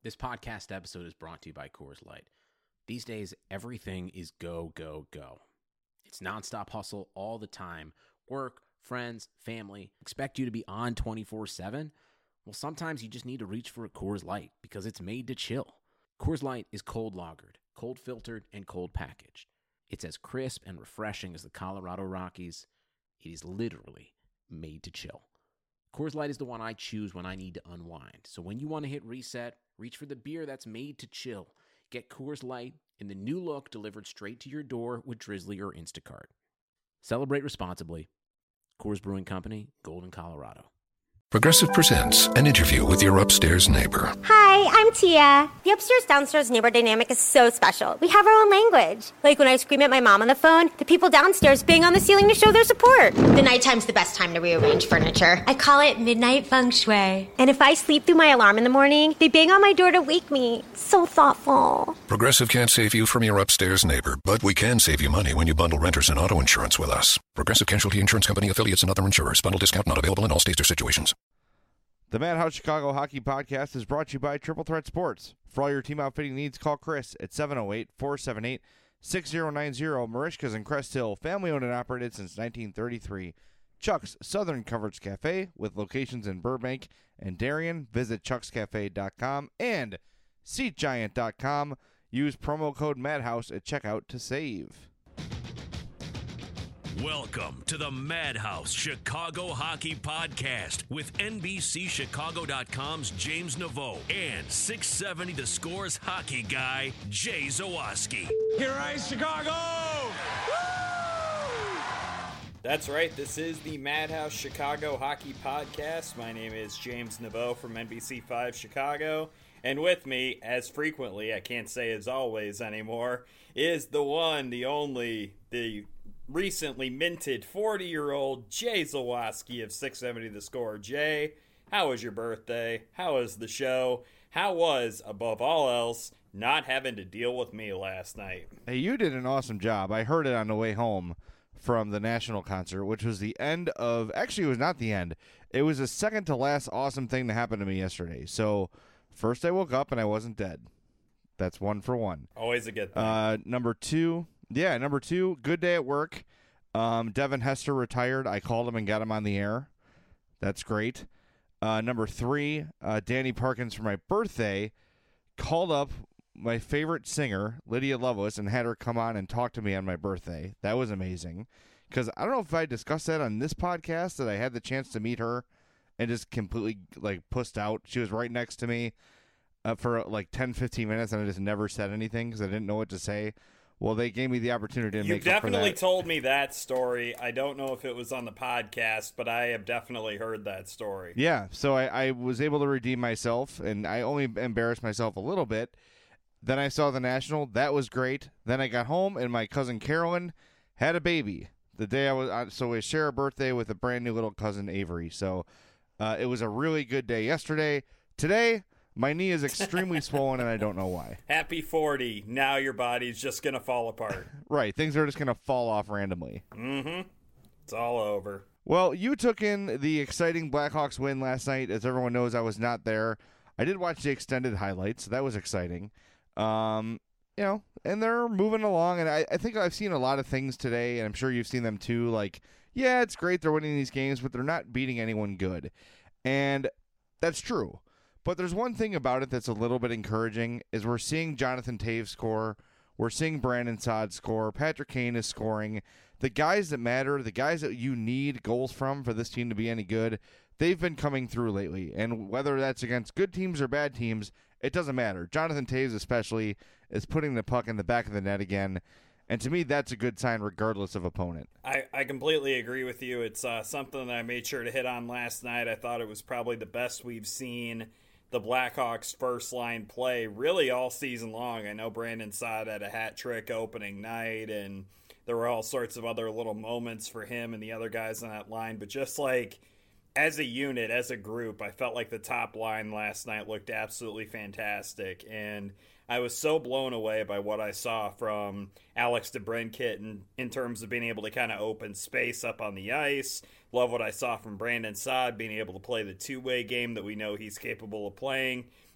This podcast episode is brought to you by Coors Light. These days, everything is go, go, go. It's nonstop hustle all the time. Work, friends, family, expect you to be on 24/7. Well, sometimes you just need to reach for a Coors Light because it's made to chill. Coors Light is cold lagered, cold filtered, and cold packaged. It's as crisp and refreshing as the Colorado Rockies. It is literally made to chill. Coors Light is the one I choose when I need to unwind. So when you want to hit reset, reach for the beer that's made to chill. Get Coors Light in the new look delivered straight to your door with Drizzly or Instacart. Celebrate responsibly. Coors Brewing Company, Golden, Colorado. Progressive presents an interview with your upstairs neighbor. Hi, I'm Tia. The upstairs-downstairs neighbor dynamic is so special. We have our own language. Like when I scream at my mom on the phone, the people downstairs bang on the ceiling to show their support. The nighttime's the best time to rearrange furniture. I call it midnight feng shui. And if I sleep through my alarm in the morning, they bang on my door to wake me. So thoughtful. Progressive can't save you from your upstairs neighbor, but we can save you money when you bundle renters and auto insurance with us. Progressive Casualty Insurance Company, affiliates, and other insurers. Bundle discount not available in all states or situations. The Madhouse Chicago Hockey Podcast is brought to you by Triple Threat Sports. For all your team outfitting needs, call Chris at 708-478-6090. Marishka's in Crest Hill, family-owned and operated since 1933. Chuck's Southern Comforts Cafe with locations in Burbank and Darien. Visit chuckscafe.com and SeatGiant.com. Use promo code Madhouse at checkout to save. Welcome to the Madhouse Chicago Hockey Podcast with NBCChicago.com's James Naveau and 670 The Score's hockey guy, Jay Zawaski. Here I Chicago! Woo! That's right. This is the Madhouse Chicago Hockey Podcast. My name is James Naveau from NBC5 Chicago. And with me, as frequently, I can't say as always anymore, is the one, the only, the recently minted 40-year-old Jay Zawaski of 670 The Score. Jay, how was your birthday? How was the show? How was, above all else, not having to deal with me last night? Hey, you did an awesome job. I heard it on the way home from the national concert, which was the end of, actually it was not the end. It was the second to last awesome thing that happened to me yesterday. So first I woke up and I wasn't dead. That's one for one. Always a good thing. Number two, good day at work. Devin Hester retired. I called him and got him on the air. That's great. Number three, Danny Parkins for my birthday called up my favorite singer, Lydia Loveless, and had her come on and talk to me on my birthday. That was amazing. Because I don't know if I discussed that on this podcast, that I had the chance to meet her and just completely pussed out. She was right next to me for 10, 15 minutes, and I just never said anything because I didn't know what to say. Well, they gave me the opportunity to make up for that. You definitely told me that story. I don't know if it was on the podcast, but I have definitely heard that story. Yeah, so I was able to redeem myself, and I only embarrassed myself a little bit. Then I saw the National. That was great. Then I got home, and my cousin Carolyn had a baby the day I was on. So we share a birthday with a brand new little cousin, Avery. So it was a really good day yesterday. Today, my knee is extremely swollen, and I don't know why. Happy 40. Now your body's just going to fall apart. Right. Things are just going to fall off randomly. Mm-hmm. It's all over. Well, you took in the exciting Blackhawks win last night. As everyone knows, I was not there. I did watch the extended highlights, so that was exciting. And they're moving along, and I think I've seen a lot of things today, and I'm sure you've seen them too. Yeah, it's great they're winning these games, but they're not beating anyone good. And that's true. But there's one thing about it that's a little bit encouraging, is we're seeing Jonathan Toews score. We're seeing Brandon Saad score. Patrick Kane is scoring. The guys that matter, the guys that you need goals from for this team to be any good, they've been coming through lately. And whether that's against good teams or bad teams, it doesn't matter. Jonathan Toews especially is putting the puck in the back of the net again. And to me, that's a good sign regardless of opponent. I completely agree with you. It's something that I made sure to hit on last night. I thought it was probably the best we've seen the Blackhawks first line play really all season long. I know Brandon Saad had a hat trick opening night, and there were all sorts of other little moments for him and the other guys on that line, but just as a unit, as a group, I felt like the top line last night looked absolutely fantastic, and I was so blown away by what I saw from Alex DeBrincat in terms of being able to kind of open space up on the ice. Love what I saw from Brandon Saad being able to play the two-way game that we know he's capable of playing.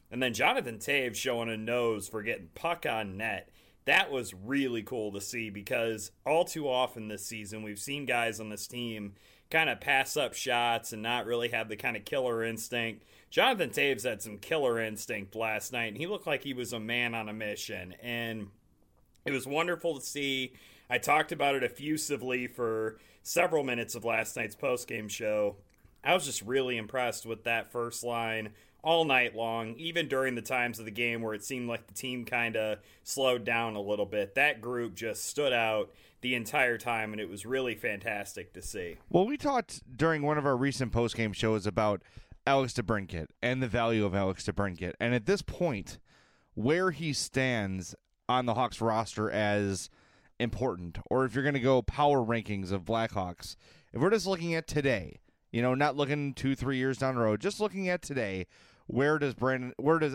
And then Jonathan Toews showing a nose for getting puck on net. That was really cool to see, because all too often this season we've seen guys on this team kind of pass up shots and not really have the kind of killer instinct. Jonathan Toews had some killer instinct last night, and he looked like he was a man on a mission. And it was wonderful to see. I talked about it effusively for several minutes of last night's postgame show. I was just really impressed with that first line all night long, even during the times of the game where it seemed like the team kind of slowed down a little bit. That group just stood out the entire time, and it was really fantastic to see. Well, we talked during one of our recent postgame shows about Alex DeBrincat and the value of Alex DeBrincat. And at this point, where he stands on the Hawks roster as important, or if you're going to go power rankings of Blackhawks, if we're just looking at today, not looking 2-3 years down the road, just looking at today, where does Alex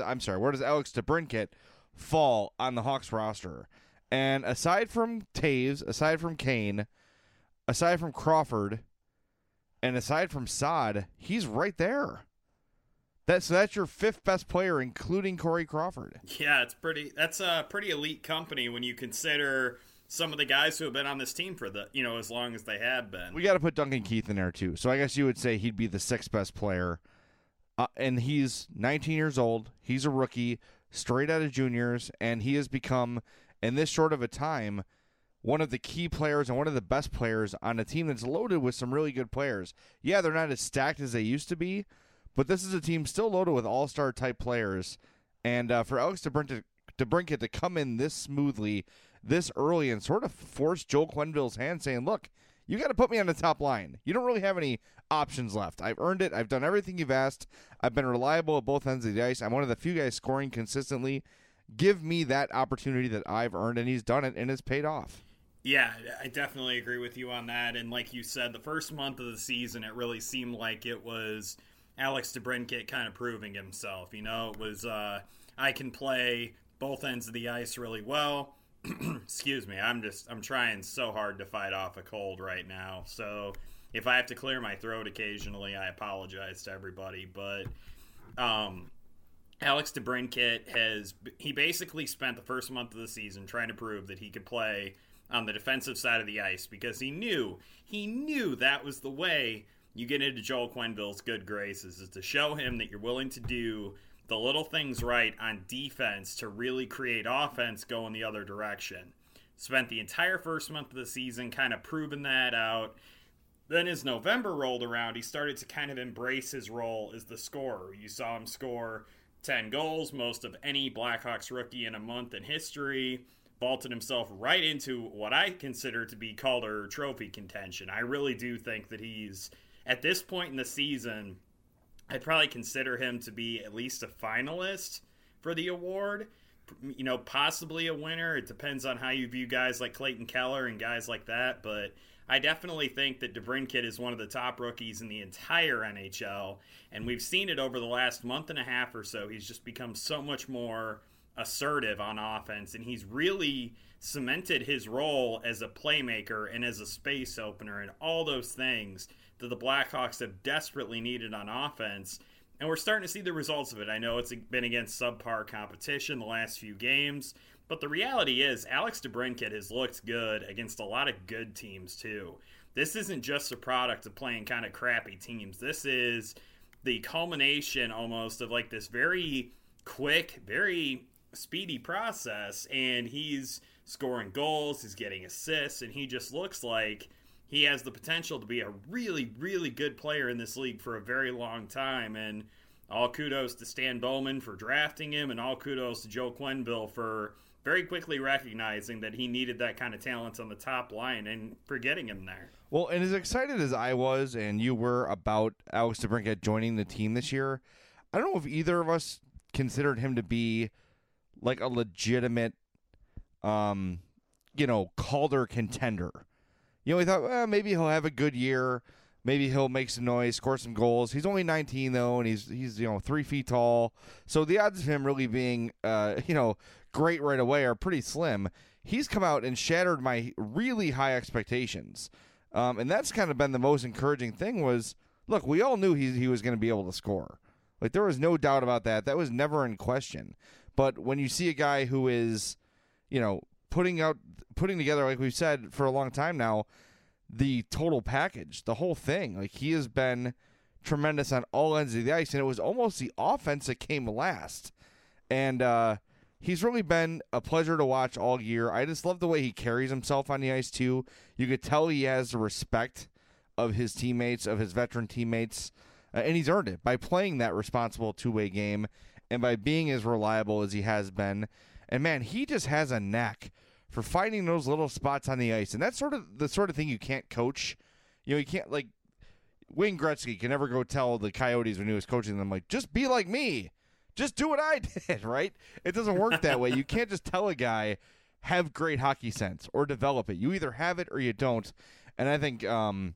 DeBrincat fall on the Hawks roster? And aside from Toews, aside from Kane, aside from Crawford, and aside from Saad, he's right there. That's your fifth best player, including Corey Crawford. Yeah, that's a pretty elite company when you consider some of the guys who have been on this team for as long as they have been. We got to put Duncan Keith in there too. So I guess you would say he'd be the sixth best player. And he's 19 years old. He's a rookie, straight out of juniors, and he has become, in this short of a time, one of the key players and one of the best players on a team that's loaded with some really good players. Yeah, they're not as stacked as they used to be, but this is a team still loaded with all-star type players. And for Alex DeBrincat to come in this smoothly, this early, and sort of force Joel Quenneville's hand, saying, look, you got to put me on the top line. You don't really have any options left. I've earned it. I've done everything you've asked. I've been reliable at both ends of the ice. I'm one of the few guys scoring consistently. Give me that opportunity that I've earned, and he's done it, and it's paid off. Yeah, I definitely agree with you on that. And like you said, the first month of the season, it really seemed like it was Alex DeBrincat kind of proving himself. It was I can play both ends of the ice really well. Excuse me, I'm trying so hard to fight off a cold right now. So if I have to clear my throat occasionally, I apologize to everybody. But Alex DeBrincat he basically spent the first month of the season trying to prove that he could play on the defensive side of the ice, because he knew that was the way you get into Joel Quenneville's good graces, is to show him that you're willing to do the little things right on defense to really create offense going the other direction. Spent the entire first month of the season kind of proving that out. Then as November rolled around, he started to kind of embrace his role as the scorer. You saw him score 10 goals, most of any Blackhawks rookie in a month in history. Vaulted himself right into what I consider to be Calder Trophy contention. I really do think that he's, at this point in the season, I'd probably consider him to be at least a finalist for the award. Possibly a winner. It depends on how you view guys like Clayton Keller and guys like that. But I definitely think that DeBrincat is one of the top rookies in the entire NHL. And we've seen it over the last month and a half or so. He's just become so much more assertive on offense. And he's really cemented his role as a playmaker and as a space opener and all those things that the Blackhawks have desperately needed on offense. And we're starting to see the results of it. I know it's been against subpar competition the last few games, but the reality is Alex DeBrincat has looked good against a lot of good teams too. This isn't just a product of playing kind of crappy teams. This is the culmination almost of like this very quick, very speedy process, and he's scoring goals, he's getting assists, and he just looks like he has the potential to be a really, really good player in this league for a very long time. And all kudos to Stan Bowman for drafting him, and all kudos to Joe Quenneville for very quickly recognizing that he needed that kind of talent on the top line and for getting him there. Well, and as excited as I was and you were about Alex DeBrincat joining the team this year, I don't know if either of us considered him to be like a legitimate, Calder contender. We thought, well, maybe he'll have a good year. Maybe he'll make some noise, score some goals. He's only 19, though, and he's 3 feet tall. So the odds of him really being, great right away are pretty slim. He's come out and shattered my really high expectations. And that's kind of been the most encouraging thing was, look, we all knew he was going to be able to score. Like, there was no doubt about that. That was never in question. But when you see a guy who is, putting together, like we've said for a long time now, the total package, the whole thing, like, he has been tremendous on all ends of the ice, and it was almost the offense that came last. And he's really been a pleasure to watch all year. I just love the way he carries himself on the ice, too. You could tell he has the respect of his teammates, of his veteran teammates, and he's earned it by playing that responsible two-way game and by being as reliable as he has been. And, man, he just has a knack for finding those little spots on the ice. And that's the sort of thing you can't coach. You can't, like, Wayne Gretzky can never go tell the Coyotes when he was coaching them, like, just be like me. Just do what I did, right? It doesn't work that way. You can't just tell a guy, have great hockey sense or develop it. You either have it or you don't. And I think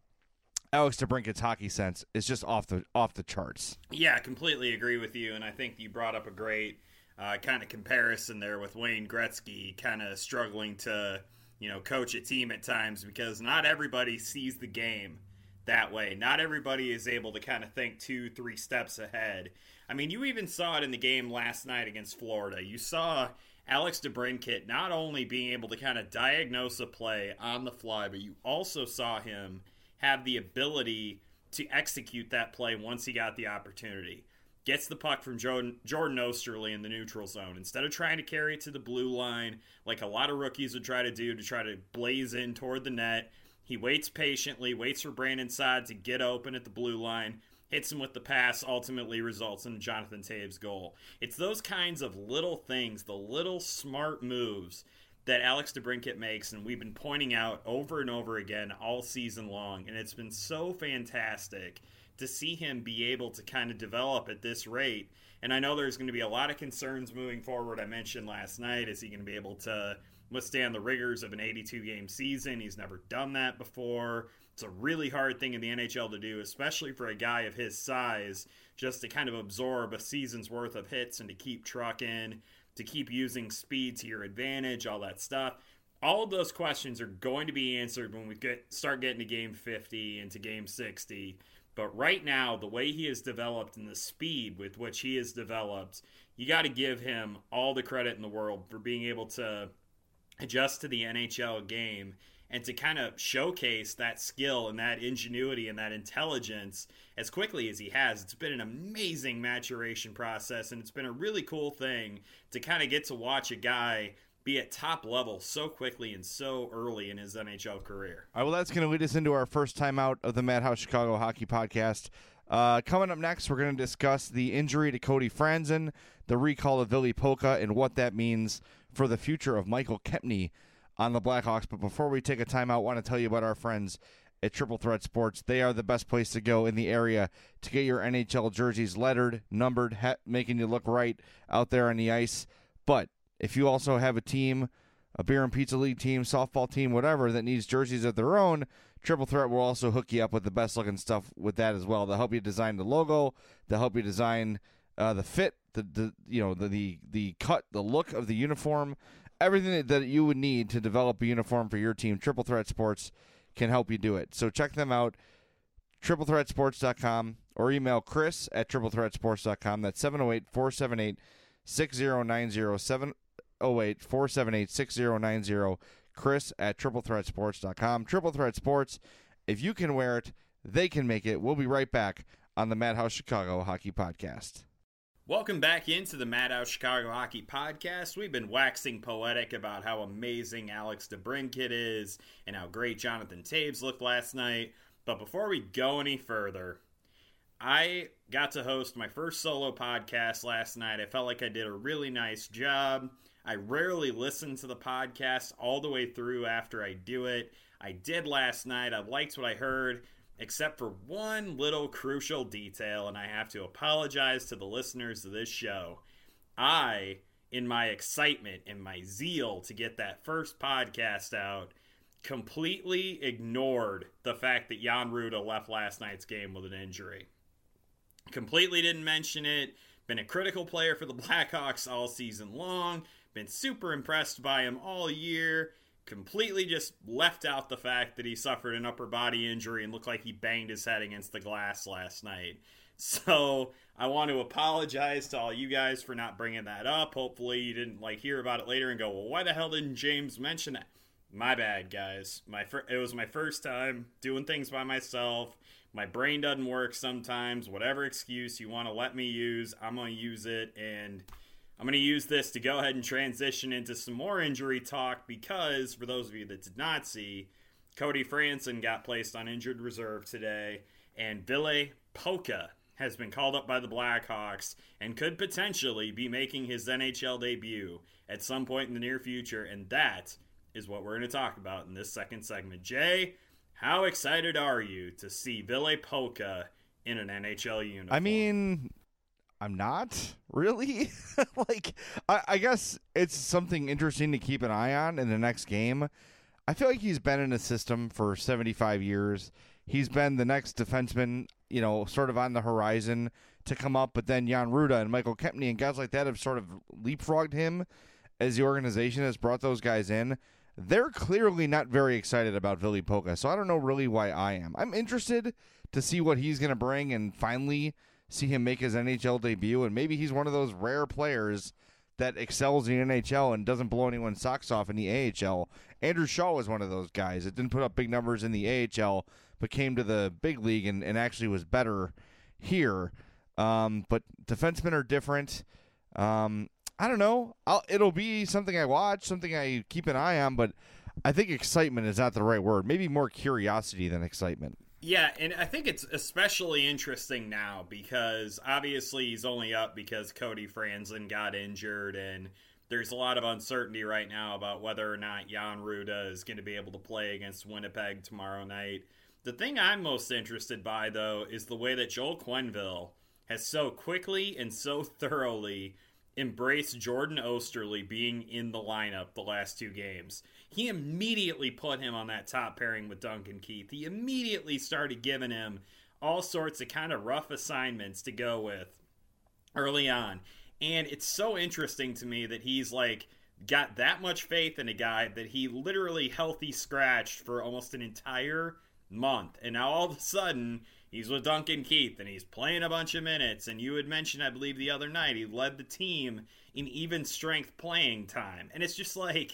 Alex DeBrincat's hockey sense is just off the charts. Yeah, I completely agree with you. And I think you brought up a great kind of comparison there with Wayne Gretzky kind of struggling to, coach a team at times, because not everybody sees the game that way. Not everybody is able to kind of think 2-3 steps ahead. I mean, you even saw it in the game last night against Florida. You saw Alex DeBrincat not only being able to kind of diagnose a play on the fly, but you also saw him have the ability to execute that play once he got the opportunity. Gets the puck from Jordan Osterley in the neutral zone. Instead of trying to carry it to the blue line, like a lot of rookies would try to do to try to blaze in toward the net, he waits patiently, waits for Brandon Saad to get open at the blue line, hits him with the pass, ultimately results in a Jonathan Toews goal. It's those kinds of little things, the little smart moves that Alex DeBrincat makes, and we've been pointing out over and over again all season long, and it's been so fantastic to see him be able to kind of develop at this rate. And I know there's going to be a lot of concerns moving forward. I mentioned last night, is he going to be able to withstand the rigors of an 82-game season? He's never done that before. It's a really hard thing in the NHL to do, especially for a guy of his size, just to kind of absorb a season's worth of hits and to keep trucking, to keep using speed to your advantage, all that stuff. All of those questions are going to be answered when we start getting to Game 50 and to Game 60. But right now, the way he has developed and the speed with which he has developed, you got to give him all the credit in the world for being able to adjust to the NHL game and to kind of showcase that skill and that ingenuity and that intelligence as quickly as he has. It's been an amazing maturation process, and it's been a really cool thing to kind of get to watch a guy be at top level so quickly and so early in his NHL career. All right, well, that's going to lead us into our first time out of the Madhouse Chicago Hockey Podcast. Coming up next, we're going to discuss the injury to Cody Franzen, the recall of Ville Pokka, and what that means for the future of Michael Kempny on the Blackhawks. But before we take a timeout, I want to tell you about our friends at Triple Threat Sports. They are the best place to go in the area to get your NHL jerseys lettered, numbered, making you look right out there on the ice. But if you also have a team, a beer and pizza league team, softball team, whatever, that needs jerseys of their own, Triple Threat will also hook you up with the best looking stuff with that as well. They'll help you design the logo. They'll help you design the fit, the cut, the look of the uniform, everything that you would need to develop a uniform for your team. Triple Threat Sports can help you do it. So check them out, triplethreatsports.com, or email Chris at triplethreatsports.com. That's 708-478-6090, 708-478-6090, Chris at triplethreatsports.com. Triple Threat Sports, if you can wear it, they can make it. We'll be right back on the Madhouse Chicago Hockey Podcast. Welcome back into the Madhouse Chicago Hockey Podcast. We've been waxing poetic about how amazing Alex DeBrincat is and how great Jonathan Toews looked last night. But before we go any further, I got to host my first solo podcast last night. I felt like I did a really nice job. I rarely listen to the podcast all the way through after I do it. I did last night. I liked what I heard, except for one little crucial detail, and I have to apologize to the listeners of this show. I, in my excitement and my zeal to get that first podcast out, completely ignored the fact that Jan Rutta left last night's game with an injury. Completely didn't mention it. Been a critical player for the Blackhawks all season long. Been super impressed by him all year. Completely just left out the fact that he suffered an upper body injury and looked like he banged his head against the glass last night. So I want to apologize to all you guys for not bringing that up. Hopefully you didn't hear about it later and go, well, why the hell didn't James mention that? My bad, guys. It was my first time doing things by myself. My brain doesn't work sometimes. Whatever excuse you want to let me use, I'm going to use it. And I'm going to use this to go ahead and transition into some more injury talk because, for those of you that did not see, Cody Franson got placed on injured reserve today, and Ville Poca has been called up by the Blackhawks and could potentially be making his NHL debut at some point in the near future, and that is what we're going to talk about in this second segment. Jay, how excited are you to see Ville Poca in an NHL uniform? I mean, I'm not really. I guess it's something interesting to keep an eye on in the next game. I feel like he's been in the system for 75 years. He's been the next defenseman, sort of on the horizon to come up, but then Jan Ruda and Michael Kempny and guys like that have sort of leapfrogged him as the organization has brought those guys in. They're clearly not very excited about Ville Poca, so I don't know really why I am. I'm interested to see what he's going to bring and finally see him make his NHL debut, and maybe he's one of those rare players that excels in the NHL and doesn't blow anyone's socks off in the AHL. Andrew Shaw was one of those guys that didn't put up big numbers in the AHL, but came to the big league and actually was better here. But defensemen are different. I don't know. It'll be something I watch, something I keep an eye on, but I think excitement is not the right word. Maybe more curiosity than excitement. Yeah, and I think it's especially interesting now because obviously he's only up because Cody Franson got injured, and there's a lot of uncertainty right now about whether or not Jan Ruda is going to be able to play against Winnipeg tomorrow night. The thing I'm most interested by, though, is the way that Joel Quenneville has so quickly and so thoroughly embraced Jordan Oesterle being in the lineup the last two games. He immediately put him on that top pairing with Duncan Keith. He immediately started giving him all sorts of kind of rough assignments to go with early on. And it's so interesting to me that he's got that much faith in a guy that he literally healthy scratched for almost an entire month. And now all of a sudden he's with Duncan Keith, and he's playing a bunch of minutes. And you had mentioned, I believe, the other night, he led the team in even strength playing time. And it's just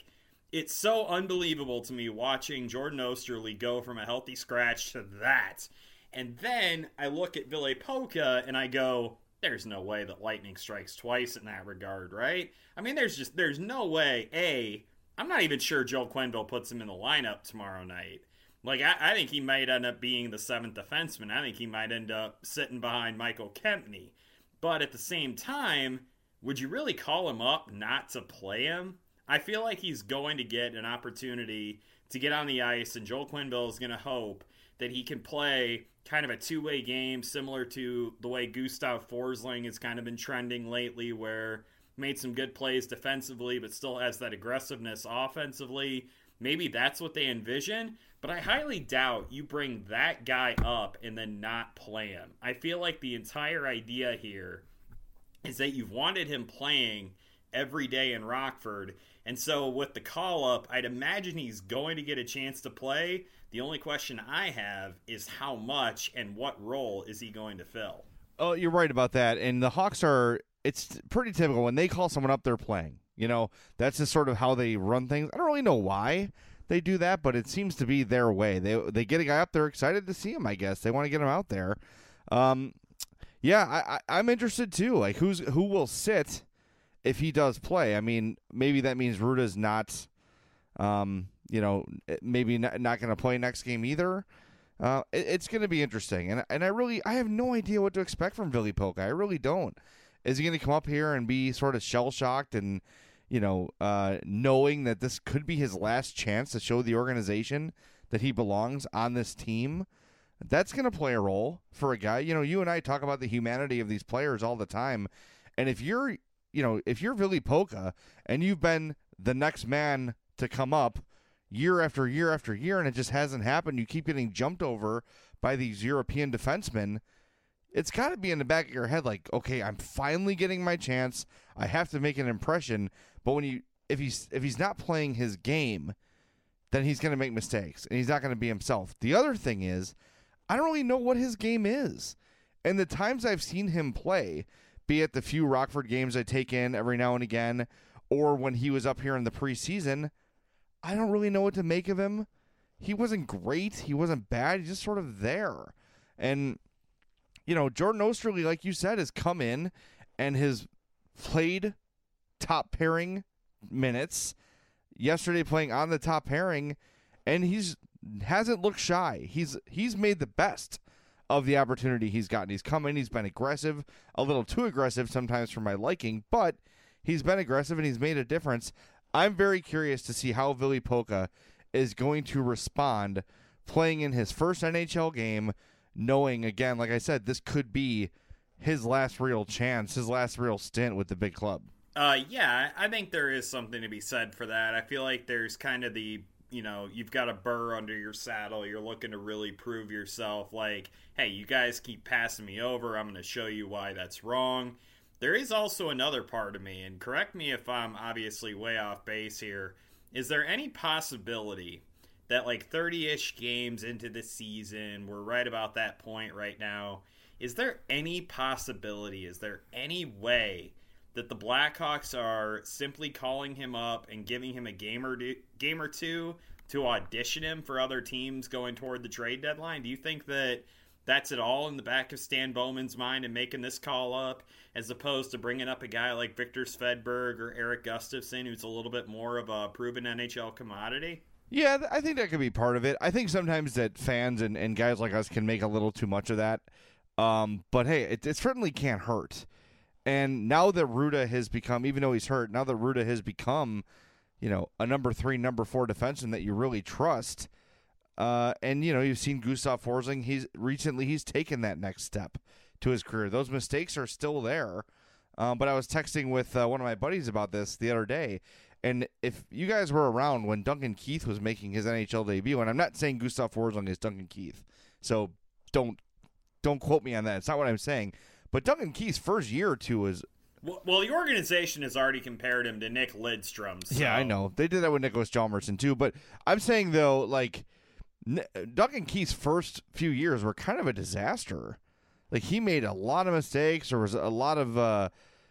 it's so unbelievable to me watching Jordan Oesterle go from a healthy scratch to that. And then I look at Ville Poca, and I go, there's no way that lightning strikes twice in that regard, right? I mean, there's no way. I'm not even sure Joel Quenneville puts him in the lineup tomorrow night. I think he might end up being the seventh defenseman. I think he might end up sitting behind Michael Kempny. But at the same time, would you really call him up not to play him? I feel like he's going to get an opportunity to get on the ice, and Joel Quenneville is going to hope that he can play kind of a two-way game, similar to the way Gustav Forsling has kind of been trending lately, where made some good plays defensively, but still has that aggressiveness offensively. Maybe that's what they envision, but I highly doubt you bring that guy up and then not play him. I feel like the entire idea here is that you've wanted him playing every day in Rockford, and so with the call-up, I'd imagine he's going to get a chance to play. The only question I have is how much and what role is he going to fill? Oh, you're right about that, and the Hawks it's pretty typical. When they call someone up, they're playing. That's just sort of how they run things. I don't really know why they do that, but it seems to be their way. They get a guy up, they're excited to see him, I guess. They want to get him out there. Yeah, I'm interested too. Who will sit if he does play? I mean, maybe that means Ruda's not, maybe not going to play next game either. It's going to be interesting, and I have no idea what to expect from Ville Poca. I really don't. Is he going to come up here and be sort of shell-shocked and, knowing that this could be his last chance to show the organization that he belongs on this team? That's going to play a role for a guy. You and I talk about the humanity of these players all the time, and if you're Ville Poca and you've been the next man to come up year after year after year, and it just hasn't happened, you keep getting jumped over by these European defensemen, it's got to be in the back of your head okay, I'm finally getting my chance. I have to make an impression. But if he's not playing his game, then he's going to make mistakes, and he's not going to be himself. The other thing is, I don't really know what his game is. And the times I've seen him play, be it the few Rockford games I take in every now and again, or when he was up here in the preseason, I don't really know what to make of him. He wasn't great. He wasn't bad. He's just sort of there. And, Jordan Osterley, like you said, has come in and has played top pairing minutes. Yesterday playing on the top pairing, and hasn't looked shy. He's made the best of the opportunity he's gotten. He's come in, he's been aggressive, a little too aggressive sometimes for my liking, but he's been aggressive and he's made a difference. I'm very curious to see how Ville Poka is going to respond playing in his first NHL game, knowing, again, like I said, this could be his last real chance, his last real stint with the big club. Yeah, I think there is something to be said for that. I feel like there's kind of the, you've got a burr under your saddle. You're looking to really prove yourself. Like, hey, you guys keep passing me over. I'm going to show you why that's wrong. There is also another part of me, and correct me if I'm obviously way off base here. Is there any possibility that like 30-ish games into the season, we're right about that point right now, is there any possibility, is there any way that the Blackhawks are simply calling him up and giving him a game or two to audition him for other teams going toward the trade deadline? Do you think that that's at all in the back of Stan Bowman's mind and making this call up, as opposed to bringing up a guy like Victor Svedberg or Eric Gustafsson, who's a little bit more of a proven NHL commodity? Yeah, I think that could be part of it. I think sometimes that fans and guys like us can make a little too much of that. But hey, it certainly can't hurt. And now that Ruda has become, even though he's hurt, now that Ruda has become, a number 3, number 4 defenseman that you really trust, and you've seen Gustav Forsling, he's taken that next step to his career. Those mistakes are still there. But I was texting with one of my buddies about this the other day, and if you guys were around when Duncan Keith was making his NHL debut, and I'm not saying Gustav Forsling is Duncan Keith, so don't quote me on that. It's not what I'm saying. But Duncan Keith's first year or two was... Well, the organization has already compared him to Nick Lidstrom. So. Yeah, I know. They did that with Nicholas Hjalmarsson, too. But I'm saying, though, like, Duncan Keith's first few years were kind of a disaster. Like, he made a lot of mistakes. There was a lot of,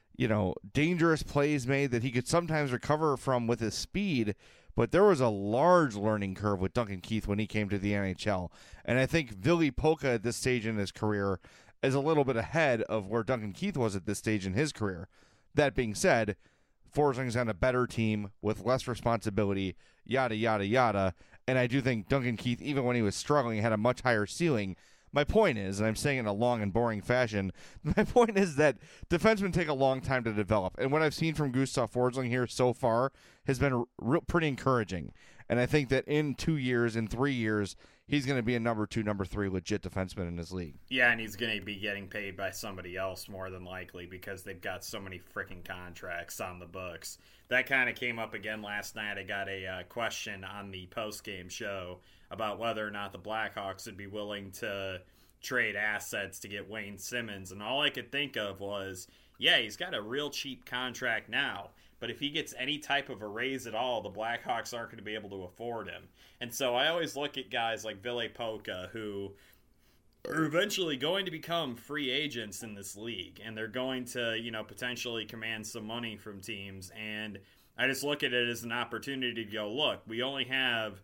dangerous plays made that he could sometimes recover from with his speed. But there was a large learning curve with Duncan Keith when he came to the NHL. And I think Ville Poka at this stage in his career is a little bit ahead of where Duncan Keith was at this stage in his career. That being said, Forsling's on a better team with less responsibility, yada, yada, yada. And I do think Duncan Keith, even when he was struggling, had a much higher ceiling. My point is, and I'm saying it in a long and boring fashion, my point is that defensemen take a long time to develop. And what I've seen from Gustav Forsling here so far has been pretty encouraging. And I think that in 2 years, in 3 years, he's going to be a number 2, number 3 legit defenseman in this league. Yeah, and he's going to be getting paid by somebody else more than likely because they've got so many freaking contracts on the books. That kind of came up again last night. I got a question on the post-game show about whether or not the Blackhawks would be willing to trade assets to get Wayne Simmons. And all I could think of was, yeah, he's got a real cheap contract now. But if he gets any type of a raise at all, the Blackhawks aren't going to be able to afford him. And so I always look at guys like Ville Poka, who are eventually going to become free agents in this league. And they're going to, potentially command some money from teams. And I just look at it as an opportunity to go, look, we only have,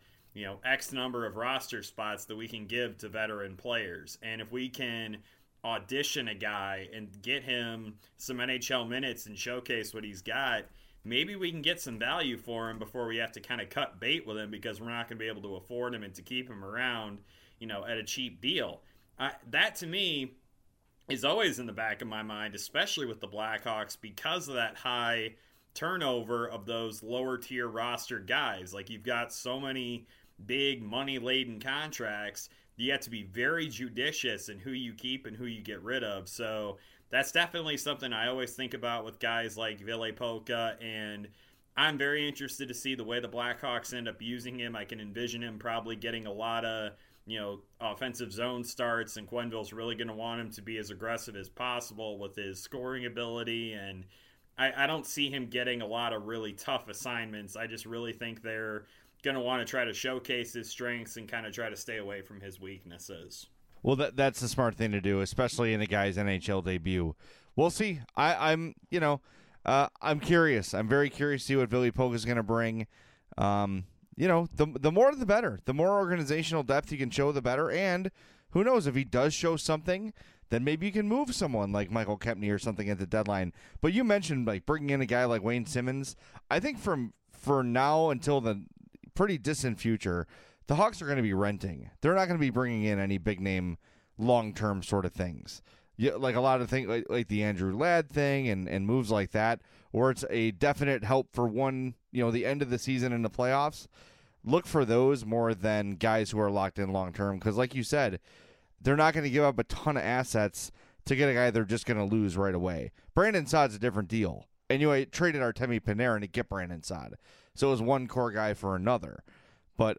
X number of roster spots that we can give to veteran players. And if we can audition a guy and get him some NHL minutes and showcase what he's got, maybe we can get some value for him before we have to kind of cut bait with him because we're not going to be able to afford him and to keep him around, at a cheap deal. That to me is always in the back of my mind, especially with the Blackhawks because of that high turnover of those lower tier roster guys. Like, you've got so many big money laden contracts. You have to be very judicious in who you keep and who you get rid of. So that's definitely something I always think about with guys like Ville Poka, and I'm very interested to see the way the Blackhawks end up using him. I can envision him probably getting a lot of, offensive zone starts, and Quenneville's really going to want him to be as aggressive as possible with his scoring ability, and I don't see him getting a lot of really tough assignments. I just really think they're going to want to try to showcase his strengths and kind of try to stay away from his weaknesses. Well, that's the smart thing to do, especially in a guy's NHL debut. We'll see. I'm curious. I'm very curious to see what Ville Pokka is going to bring. The more the better. The more organizational depth you can show, the better. And who knows, if he does show something, then maybe you can move someone like Michael Kempny or something at the deadline. But you mentioned like bringing in a guy like Wayne Simmonds. I think for now until the pretty distant future, the Hawks are going to be renting. They're not going to be bringing in any big name, long term sort of things. Yeah, like a lot of things like the Andrew Ladd thing and moves like that, where it's a definite help for the end of the season in the playoffs. Look for those more than guys who are locked in long term, because like you said, they're not going to give up a ton of assets to get a guy they're just going to lose right away. Brandon Saad's a different deal. And traded Artemi Panarin to get Brandon Saad. So it was one core guy for another. But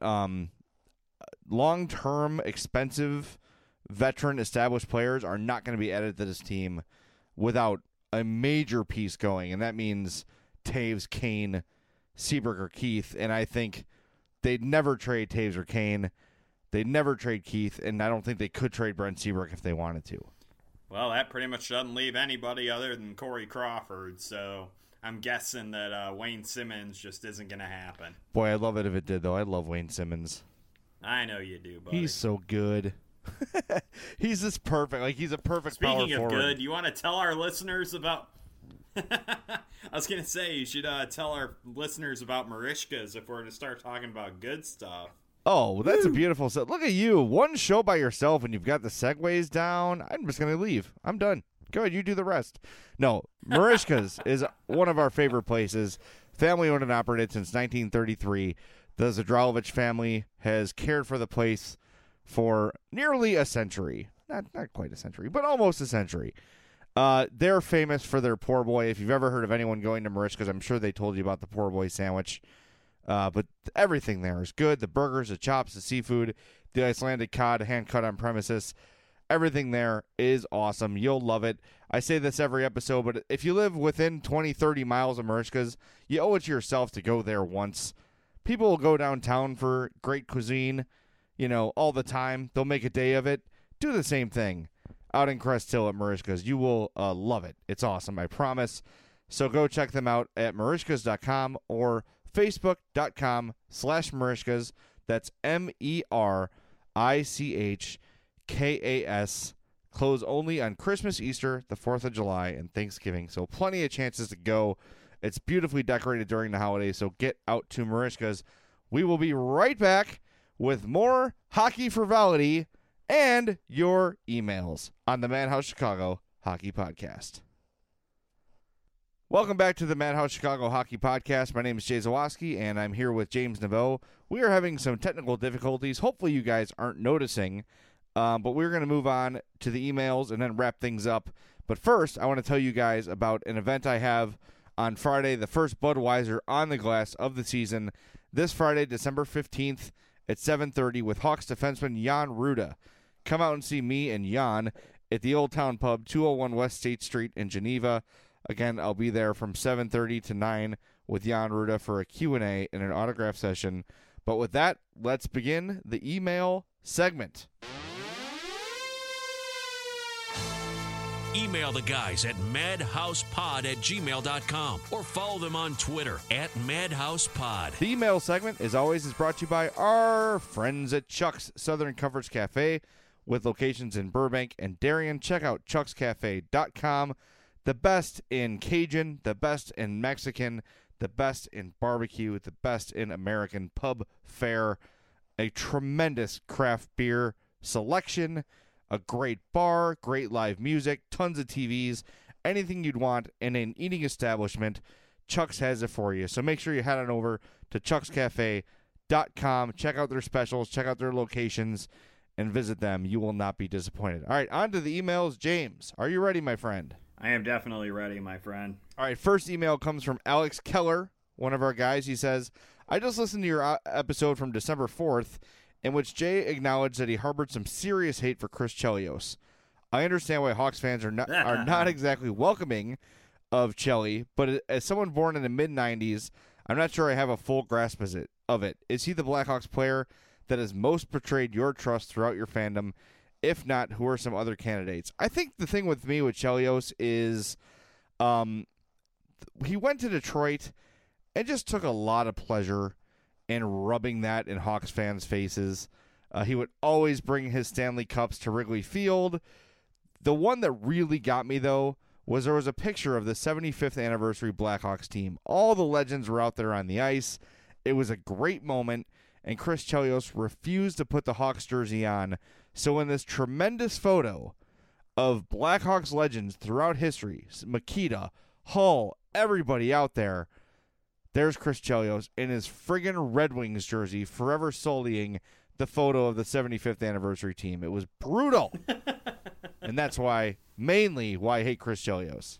long-term, expensive, veteran, established players are not going to be added to this team without a major piece going. And that means Taves, Kane, Seabrook, or Keith. And I think they'd never trade Taves or Kane. They'd never trade Keith, and I don't think they could trade Brent Seabrook if they wanted to. Well, that pretty much doesn't leave anybody other than Corey Crawford, so I'm guessing that Wayne Simmonds just isn't going to happen. Boy, I'd love it if it did, though. I love Wayne Simmonds. I know you do, buddy. He's so good. He's just perfect. Like, he's a perfect power forward. Speaking of good, you want to tell our listeners about... I was going to say, you should tell our listeners about Marishkas if we're to start talking about good stuff. Oh, well, that's a beautiful set. Look at you. One show by yourself and you've got the segues down. I'm just going to leave. I'm done. Go ahead. You do the rest. No, Marishka's is one of our favorite places. Family owned and operated since 1933. The Zadralovich family has cared for the place for nearly a century. Not quite a century, but almost a century. They're famous for their poor boy. If you've ever heard of anyone going to Marishka's, I'm sure they told you about the poor boy sandwich. But everything there is good. The burgers, the chops, the seafood, the Icelandic cod, hand cut on premises. Everything there is awesome. You'll love it. I say this every episode, but if you live within 20, 30 miles of Marishka's, you owe it to yourself to go there once. People will go downtown for great cuisine, all the time. They'll make a day of it. Do the same thing out in Crest Hill at Marishka's. You will love it. It's awesome, I promise. So go check them out at marishkas.com or Facebook.com/Marishkas. That's MERICHKAS. Close only on Christmas, Easter, the 4th of July, and Thanksgiving. So plenty of chances to go. It's beautifully decorated during the holidays, so get out to Marishkas. We will be right back with more Hockey Frivolity and your emails on the Madhouse Chicago Hockey Podcast. Welcome back to the Madhouse Chicago Hockey Podcast. My name is Jay Zawaski, and I'm here with James Naveau. We are having some technical difficulties. Hopefully you guys aren't noticing, but we're going to move on to the emails and then wrap things up. But first, I want to tell you guys about an event I have on Friday, the first Budweiser on the glass of the season, this Friday, December 15th at 7:30 with Hawks defenseman Jan Rutta. Come out and see me and Jan at the Old Town Pub, 201 West State Street in Geneva. Again, I'll be there from 7:30 to 9 with Jan Rutta for a Q&A and an autograph session. But with that, let's begin the email segment. Email the guys at madhousepod@gmail.com or follow them on Twitter @madhousepod. The email segment, as always, is brought to you by our friends at Chuck's Southern Comforts Cafe with locations in Burbank and Darien. Check out chuckscafe.com. The best in Cajun, the best in Mexican, the best in barbecue, the best in American pub fare, a tremendous craft beer selection, a great bar, great live music, tons of TVs, anything you'd want in an eating establishment, Chuck's has it for you. So make sure you head on over to chuckscafe.com, check out their specials, check out their locations, and visit them. You will not be disappointed. All right, on to the emails. James, are you ready, my friend? I am definitely ready, my friend. All right, first email comes from Alex Keller, one of our guys. He says, I just listened to your episode from December 4th, in which Jay acknowledged that he harbored some serious hate for Chris Chelios. I understand why Hawks fans are not exactly welcoming of Chelly, but as someone born in the mid-'90s, I'm not sure I have a full grasp of it. Is he the Blackhawks player that has most betrayed your trust throughout your fandom? If not, who are some other candidates? I think the thing with me with Chelios is he went to Detroit and just took a lot of pleasure in rubbing that in Hawks fans' faces. He would always bring his Stanley Cups to Wrigley Field. The one that really got me, though, was there was a picture of the 75th anniversary Blackhawks team. All the legends were out there on the ice. It was a great moment, and Chris Chelios refused to put the Hawks jersey on. So in this tremendous photo of Blackhawks legends throughout history, Mikita, Hull, everybody out there, there's Chris Chelios in his friggin' Red Wings jersey, forever sullying the photo of the 75th anniversary team. It was brutal. And that's mainly why I hate Chris Chelios.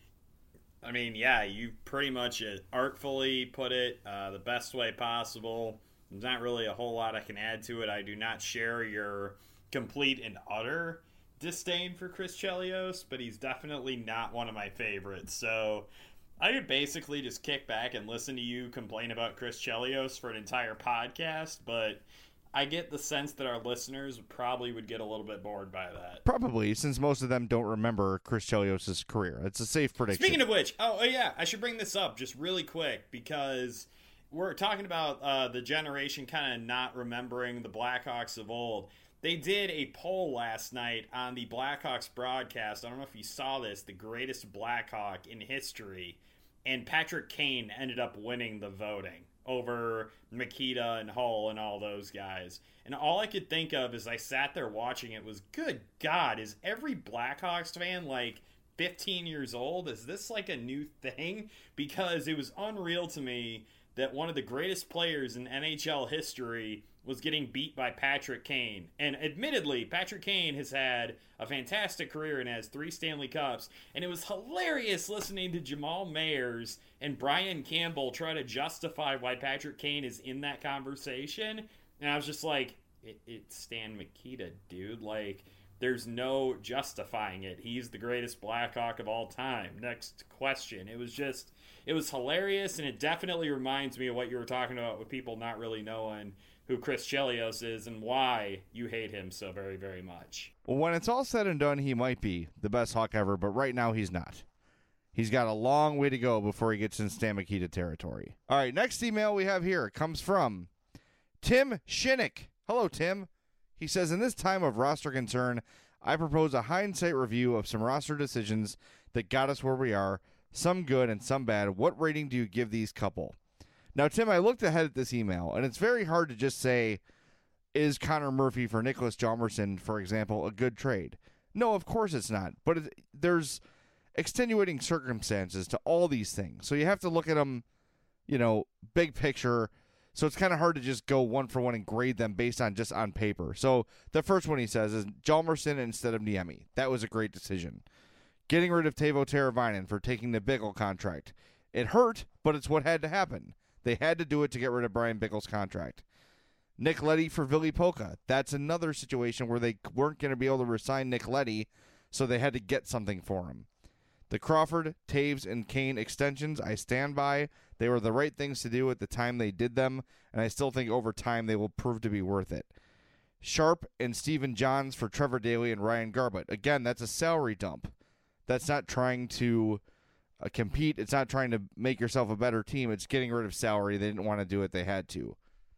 I mean, yeah, you pretty much artfully put it the best way possible. There's not really a whole lot I can add to it. I do not share your complete and utter disdain for Chris Chelios, but he's definitely not one of my favorites. So I could basically just kick back and listen to you complain about Chris Chelios for an entire podcast, but I get the sense that our listeners probably would get a little bit bored by that. Probably, since most of them don't remember Chris Chelios' career. It's a safe prediction. Speaking of which, oh yeah, I should bring this up just really quick because we're talking about the generation kind of not remembering the Blackhawks of old. They did a poll last night on the Blackhawks broadcast. I don't know if you saw this, the greatest Blackhawk in history. And Patrick Kane ended up winning the voting over Mikita and Hull and all those guys. And all I could think of as I sat there watching it was, good God, is every Blackhawks fan like 15 years old? Is this like a new thing? Because it was unreal to me that one of the greatest players in NHL history was getting beat by Patrick Kane. And admittedly, Patrick Kane has had a fantastic career and has 3 Stanley Cups. And it was hilarious listening to Jamal Mayers and Brian Campbell try to justify why Patrick Kane is in that conversation. And I was just like, it's Stan Mikita, dude. Like, there's no justifying it. He's the greatest Blackhawk of all time. Next question. It was hilarious, and it definitely reminds me of what you were talking about with people not really knowing who Chris Chelios is and why you hate him so very, very much. Well, when it's all said and done, he might be the best Hawk ever, but right now he's not. He's got a long way to go before he gets in Stan Mikita territory. All right, next email we have here comes from Tim Shinnick. Hello, Tim. He says, in this time of roster concern, I propose a hindsight review of some roster decisions that got us where we are, some good and some bad. What rating do you give these couple? Now, Tim, I looked ahead at this email, and it's very hard to just say, is Connor Murphy for Nicholas Hjalmarsson, for example, a good trade? No, of course it's not. But there's extenuating circumstances to all these things. So you have to look at them, big picture. So it's kind of hard to just go one for one and grade them based on just on paper. So the first one he says is Hjalmarsson instead of Niemi. That was a great decision. Getting rid of Teuvo Teravainen for taking the Bickle contract. It hurt, but it's what had to happen. They had to do it to get rid of Brian Bickle's contract. Nick Leddy for Ville Pokka. That's another situation where they weren't going to be able to resign Nick Leddy, so they had to get something for him. The Crawford, Taves, and Kane extensions, I stand by. They were the right things to do at the time they did them, and I still think over time they will prove to be worth it. Sharp and Stephen Johns for Trevor Daley and Ryan Garbutt. Again, that's a salary dump. That's not trying to compete. It's not trying to make yourself a better team. It's getting rid of salary. They didn't want to do it. They had to.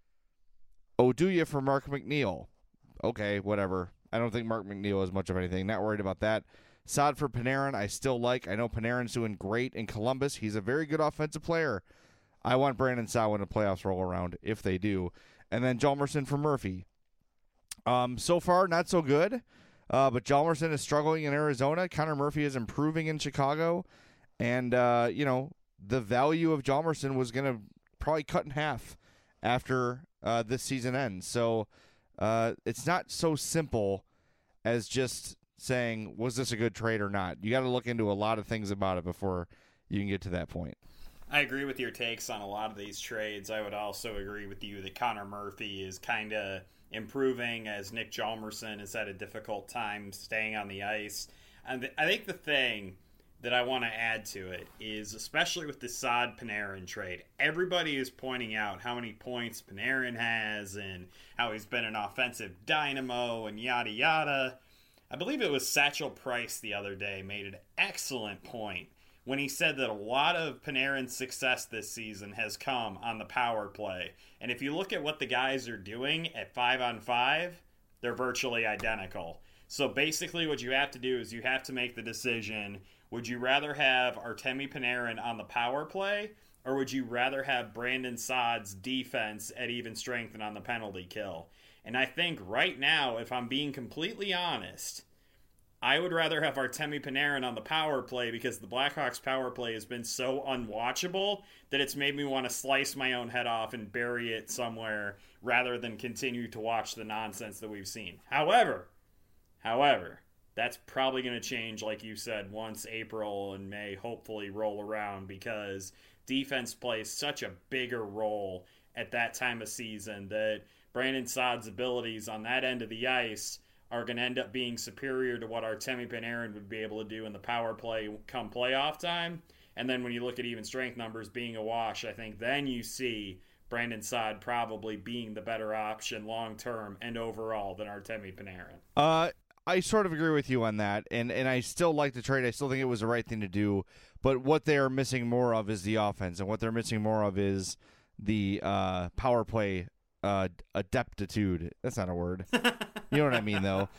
Oduya for Mark McNeil. Okay, whatever. I don't think Mark McNeil is much of anything. Not worried about that. Saad for Panarin, I still like. I know Panarin's doing great in Columbus. He's a very good offensive player. I want Brandon Saad when the playoffs roll around, if they do. And then Hjalmarsson for Murphy. So far, not so good. But Hjalmarsson is struggling in Arizona. Connor Murphy is improving in Chicago. And, the value of Hjalmarsson was going to probably cut in half after this season ends. So it's not so simple as just saying, was this a good trade or not? You got to look into a lot of things about it before you can get to that point. I agree with your takes on a lot of these trades. I would also agree with you that Connor Murphy is kind of improving as Nick Hjalmarsson has had a difficult time staying on the ice. And I think the thing that I want to add to it is, especially with the Saad Panarin trade, everybody is pointing out how many points Panarin has and how he's been an offensive dynamo and yada yada. I believe it was Satchel Price the other day made an excellent point when he said that a lot of Panarin's success this season has come on the power play. And if you look at what the guys are doing at 5-on-5, they're virtually identical. So basically what you have to do is you have to make the decision, would you rather have Artemi Panarin on the power play, or would you rather have Brandon Saad's defense at even strength and on the penalty kill? And I think right now, if I'm being completely honest, I would rather have Artemi Panarin on the power play because the Blackhawks power play has been so unwatchable that it's made me want to slice my own head off and bury it somewhere rather than continue to watch the nonsense that we've seen. However, that's probably going to change, like you said, once April and May hopefully roll around, because defense plays such a bigger role at that time of season that Brandon Saad's abilities on that end of the ice are going to end up being superior to what Artemi Panarin would be able to do in the power play come playoff time. And then when you look at even strength numbers being a wash, I think then you see Brandon Saad probably being the better option long-term and overall than Artemi Panarin. I sort of agree with you on that, and I still like the trade. I still think it was the right thing to do, but what they are missing more of is the offense, and what they're missing more of is the power play adeptitude. That's not a word. You know what I mean, though.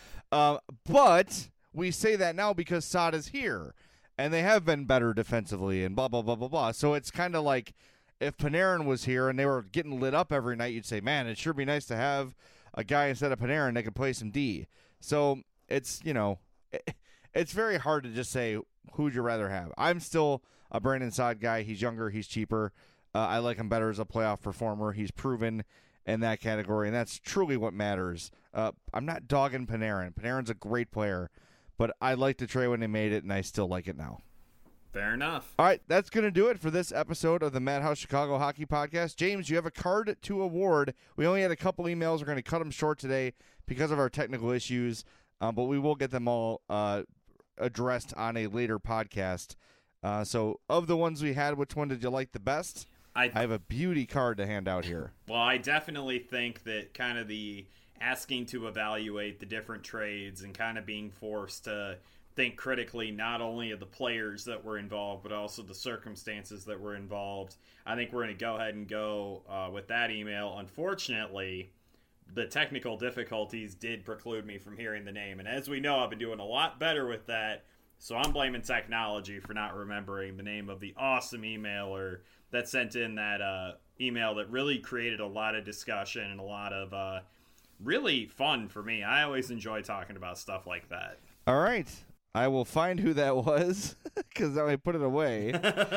But we say that now because Saad is here, and they have been better defensively, and blah, blah, blah, blah, blah. So it's kind of like if Panarin was here and they were getting lit up every night, you'd say, man, it'd sure be nice to have a guy instead of Panarin that could play some D. So it's, it's very hard to just say who would you rather have. I'm still a Brandon Saad guy. He's younger. He's cheaper. I like him better as a playoff performer. He's proven in that category, and that's truly what matters. I'm not dogging Panarin. Panarin's a great player, but I liked the trade when they made it, and I still like it now. Fair enough. All right, that's going to do it for this episode of the Madhouse Chicago Hockey Podcast. James, you have a card to award. We only had a couple emails. We're going to cut them short today because of our technical issues, but we will get them all addressed on a later podcast. So of the ones we had, which one did you like the best? I have a beauty card to hand out here. Well, I definitely think that kind of the asking to evaluate the different trades and kind of being forced to think critically not only of the players that were involved, but also the circumstances that were involved. I think we're going to go ahead and go with that email. Unfortunately, the technical difficulties did preclude me from hearing the name. And as we know, I've been doing a lot better with that. So I'm blaming technology for not remembering the name of the awesome emailer that sent in that email that really created a lot of discussion and a lot of really fun for me. I always enjoy talking about stuff like that. All right. I will find who that was because I put it away.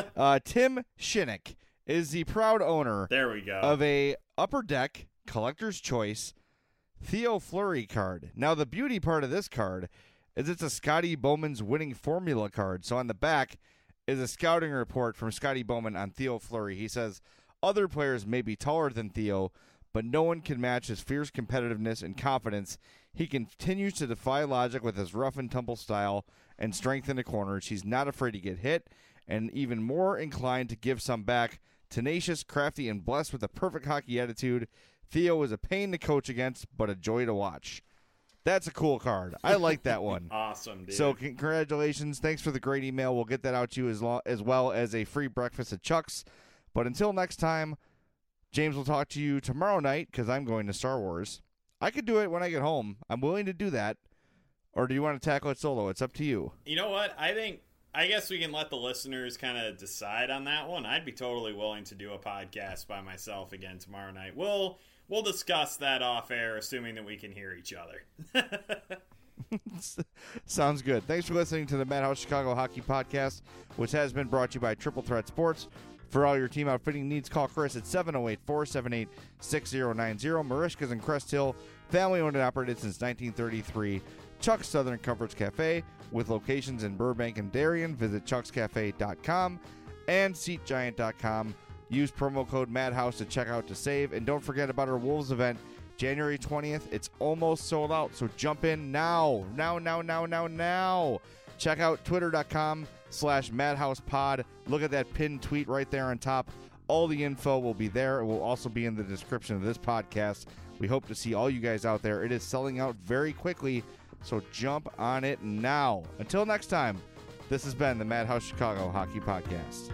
Tim Shinnick is the proud owner there we go. Of a Upper Deck Collector's Choice Theo Fleury card. Now, the beauty part of this card is it's a Scotty Bowman's winning formula card. So on the back is a scouting report from Scotty Bowman on Theo Fleury. He says, other players may be taller than Theo, but no one can match his fierce competitiveness and confidence. He continues to defy logic with his rough and tumble style and strength in the corners. He's not afraid to get hit and even more inclined to give some back. Tenacious, crafty, and blessed with a perfect hockey attitude. Theo is a pain to coach against, but a joy to watch. That's a cool card. I like that one. Awesome, dude. So congratulations. Thanks for the great email. We'll get that out to you as well as a free breakfast at Chuck's. But until next time, James will talk to you tomorrow night because I'm going to Star Wars. I could do it when I get home. I'm willing to do that. Or do you want to tackle it solo? It's up to you. You know what? I guess we can let the listeners kind of decide on that one. I'd be totally willing to do a podcast by myself again tomorrow night. We'll discuss that off air, assuming that we can hear each other. Sounds good. Thanks for listening to the Madhouse Chicago Hockey Podcast, which has been brought to you by Triple Threat Sports. For all your team outfitting needs, call Chris at 708-478-6090. Marishka's in Crest Hill, family owned and operated since 1933. Chuck's Southern Comforts Cafe, with locations in Burbank and Darien. Visit chuckscafe.com and SeatGiant.com. Use promo code MADHOUSE to check out to save. And don't forget about our Wolves event, January 20th. It's almost sold out, so jump in now. Now. Check out twitter.com facebook.com/madhousepod. Look at that pinned tweet right there on top. All the info will be there. It will also be in the description of this podcast. We hope to see all you guys out there. It is selling out very quickly, so jump on it now. Until next time, this has been the Madhouse Chicago Hockey Podcast.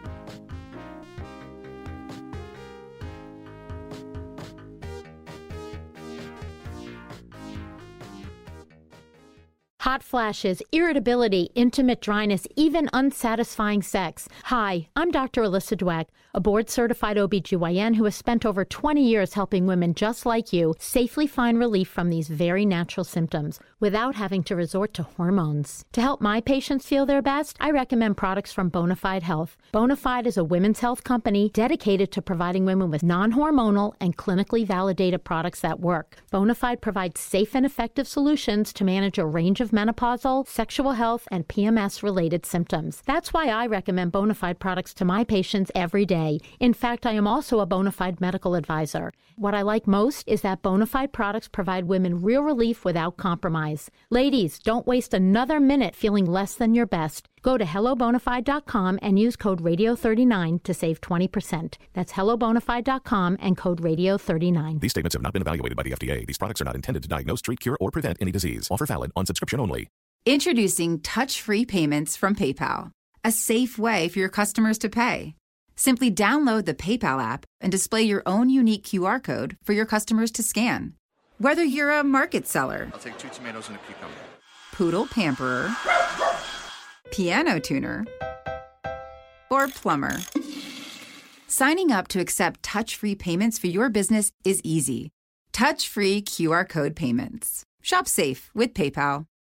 Hot flashes, irritability, intimate dryness, even unsatisfying sex. Hi, I'm Dr. Alyssa Dweck, a board-certified OBGYN who has spent over 20 years helping women just like you safely find relief from these very natural symptoms without having to resort to hormones. To help my patients feel their best, I recommend products from Bonafide Health. Bonafide is a women's health company dedicated to providing women with non-hormonal and clinically validated products that work. Bonafide provides safe and effective solutions to manage a range of menopausal, sexual health, and PMS-related symptoms. That's why I recommend Bonafide products to my patients every day. In fact, I am also a Bonafide medical advisor. What I like most is that Bonafide products provide women real relief without compromise. Ladies, don't waste another minute feeling less than your best. Go to hellobonafide.com and use code radio39 to save 20%. That's hellobonafide.com and code radio39. These statements have not been evaluated by the FDA. These products are not intended to diagnose, treat, cure, or prevent any disease. Offer valid on subscription only. Introducing touch-free payments from PayPal, a safe way for your customers to pay. Simply download the PayPal app and display your own unique QR code for your customers to scan. Whether you're a market seller, I'll take 2 tomatoes and a cucumber. poodle pamperer, piano tuner, or plumber, signing up to accept touch-free payments for your business is easy. Touch-free QR code payments. Shop safe with PayPal.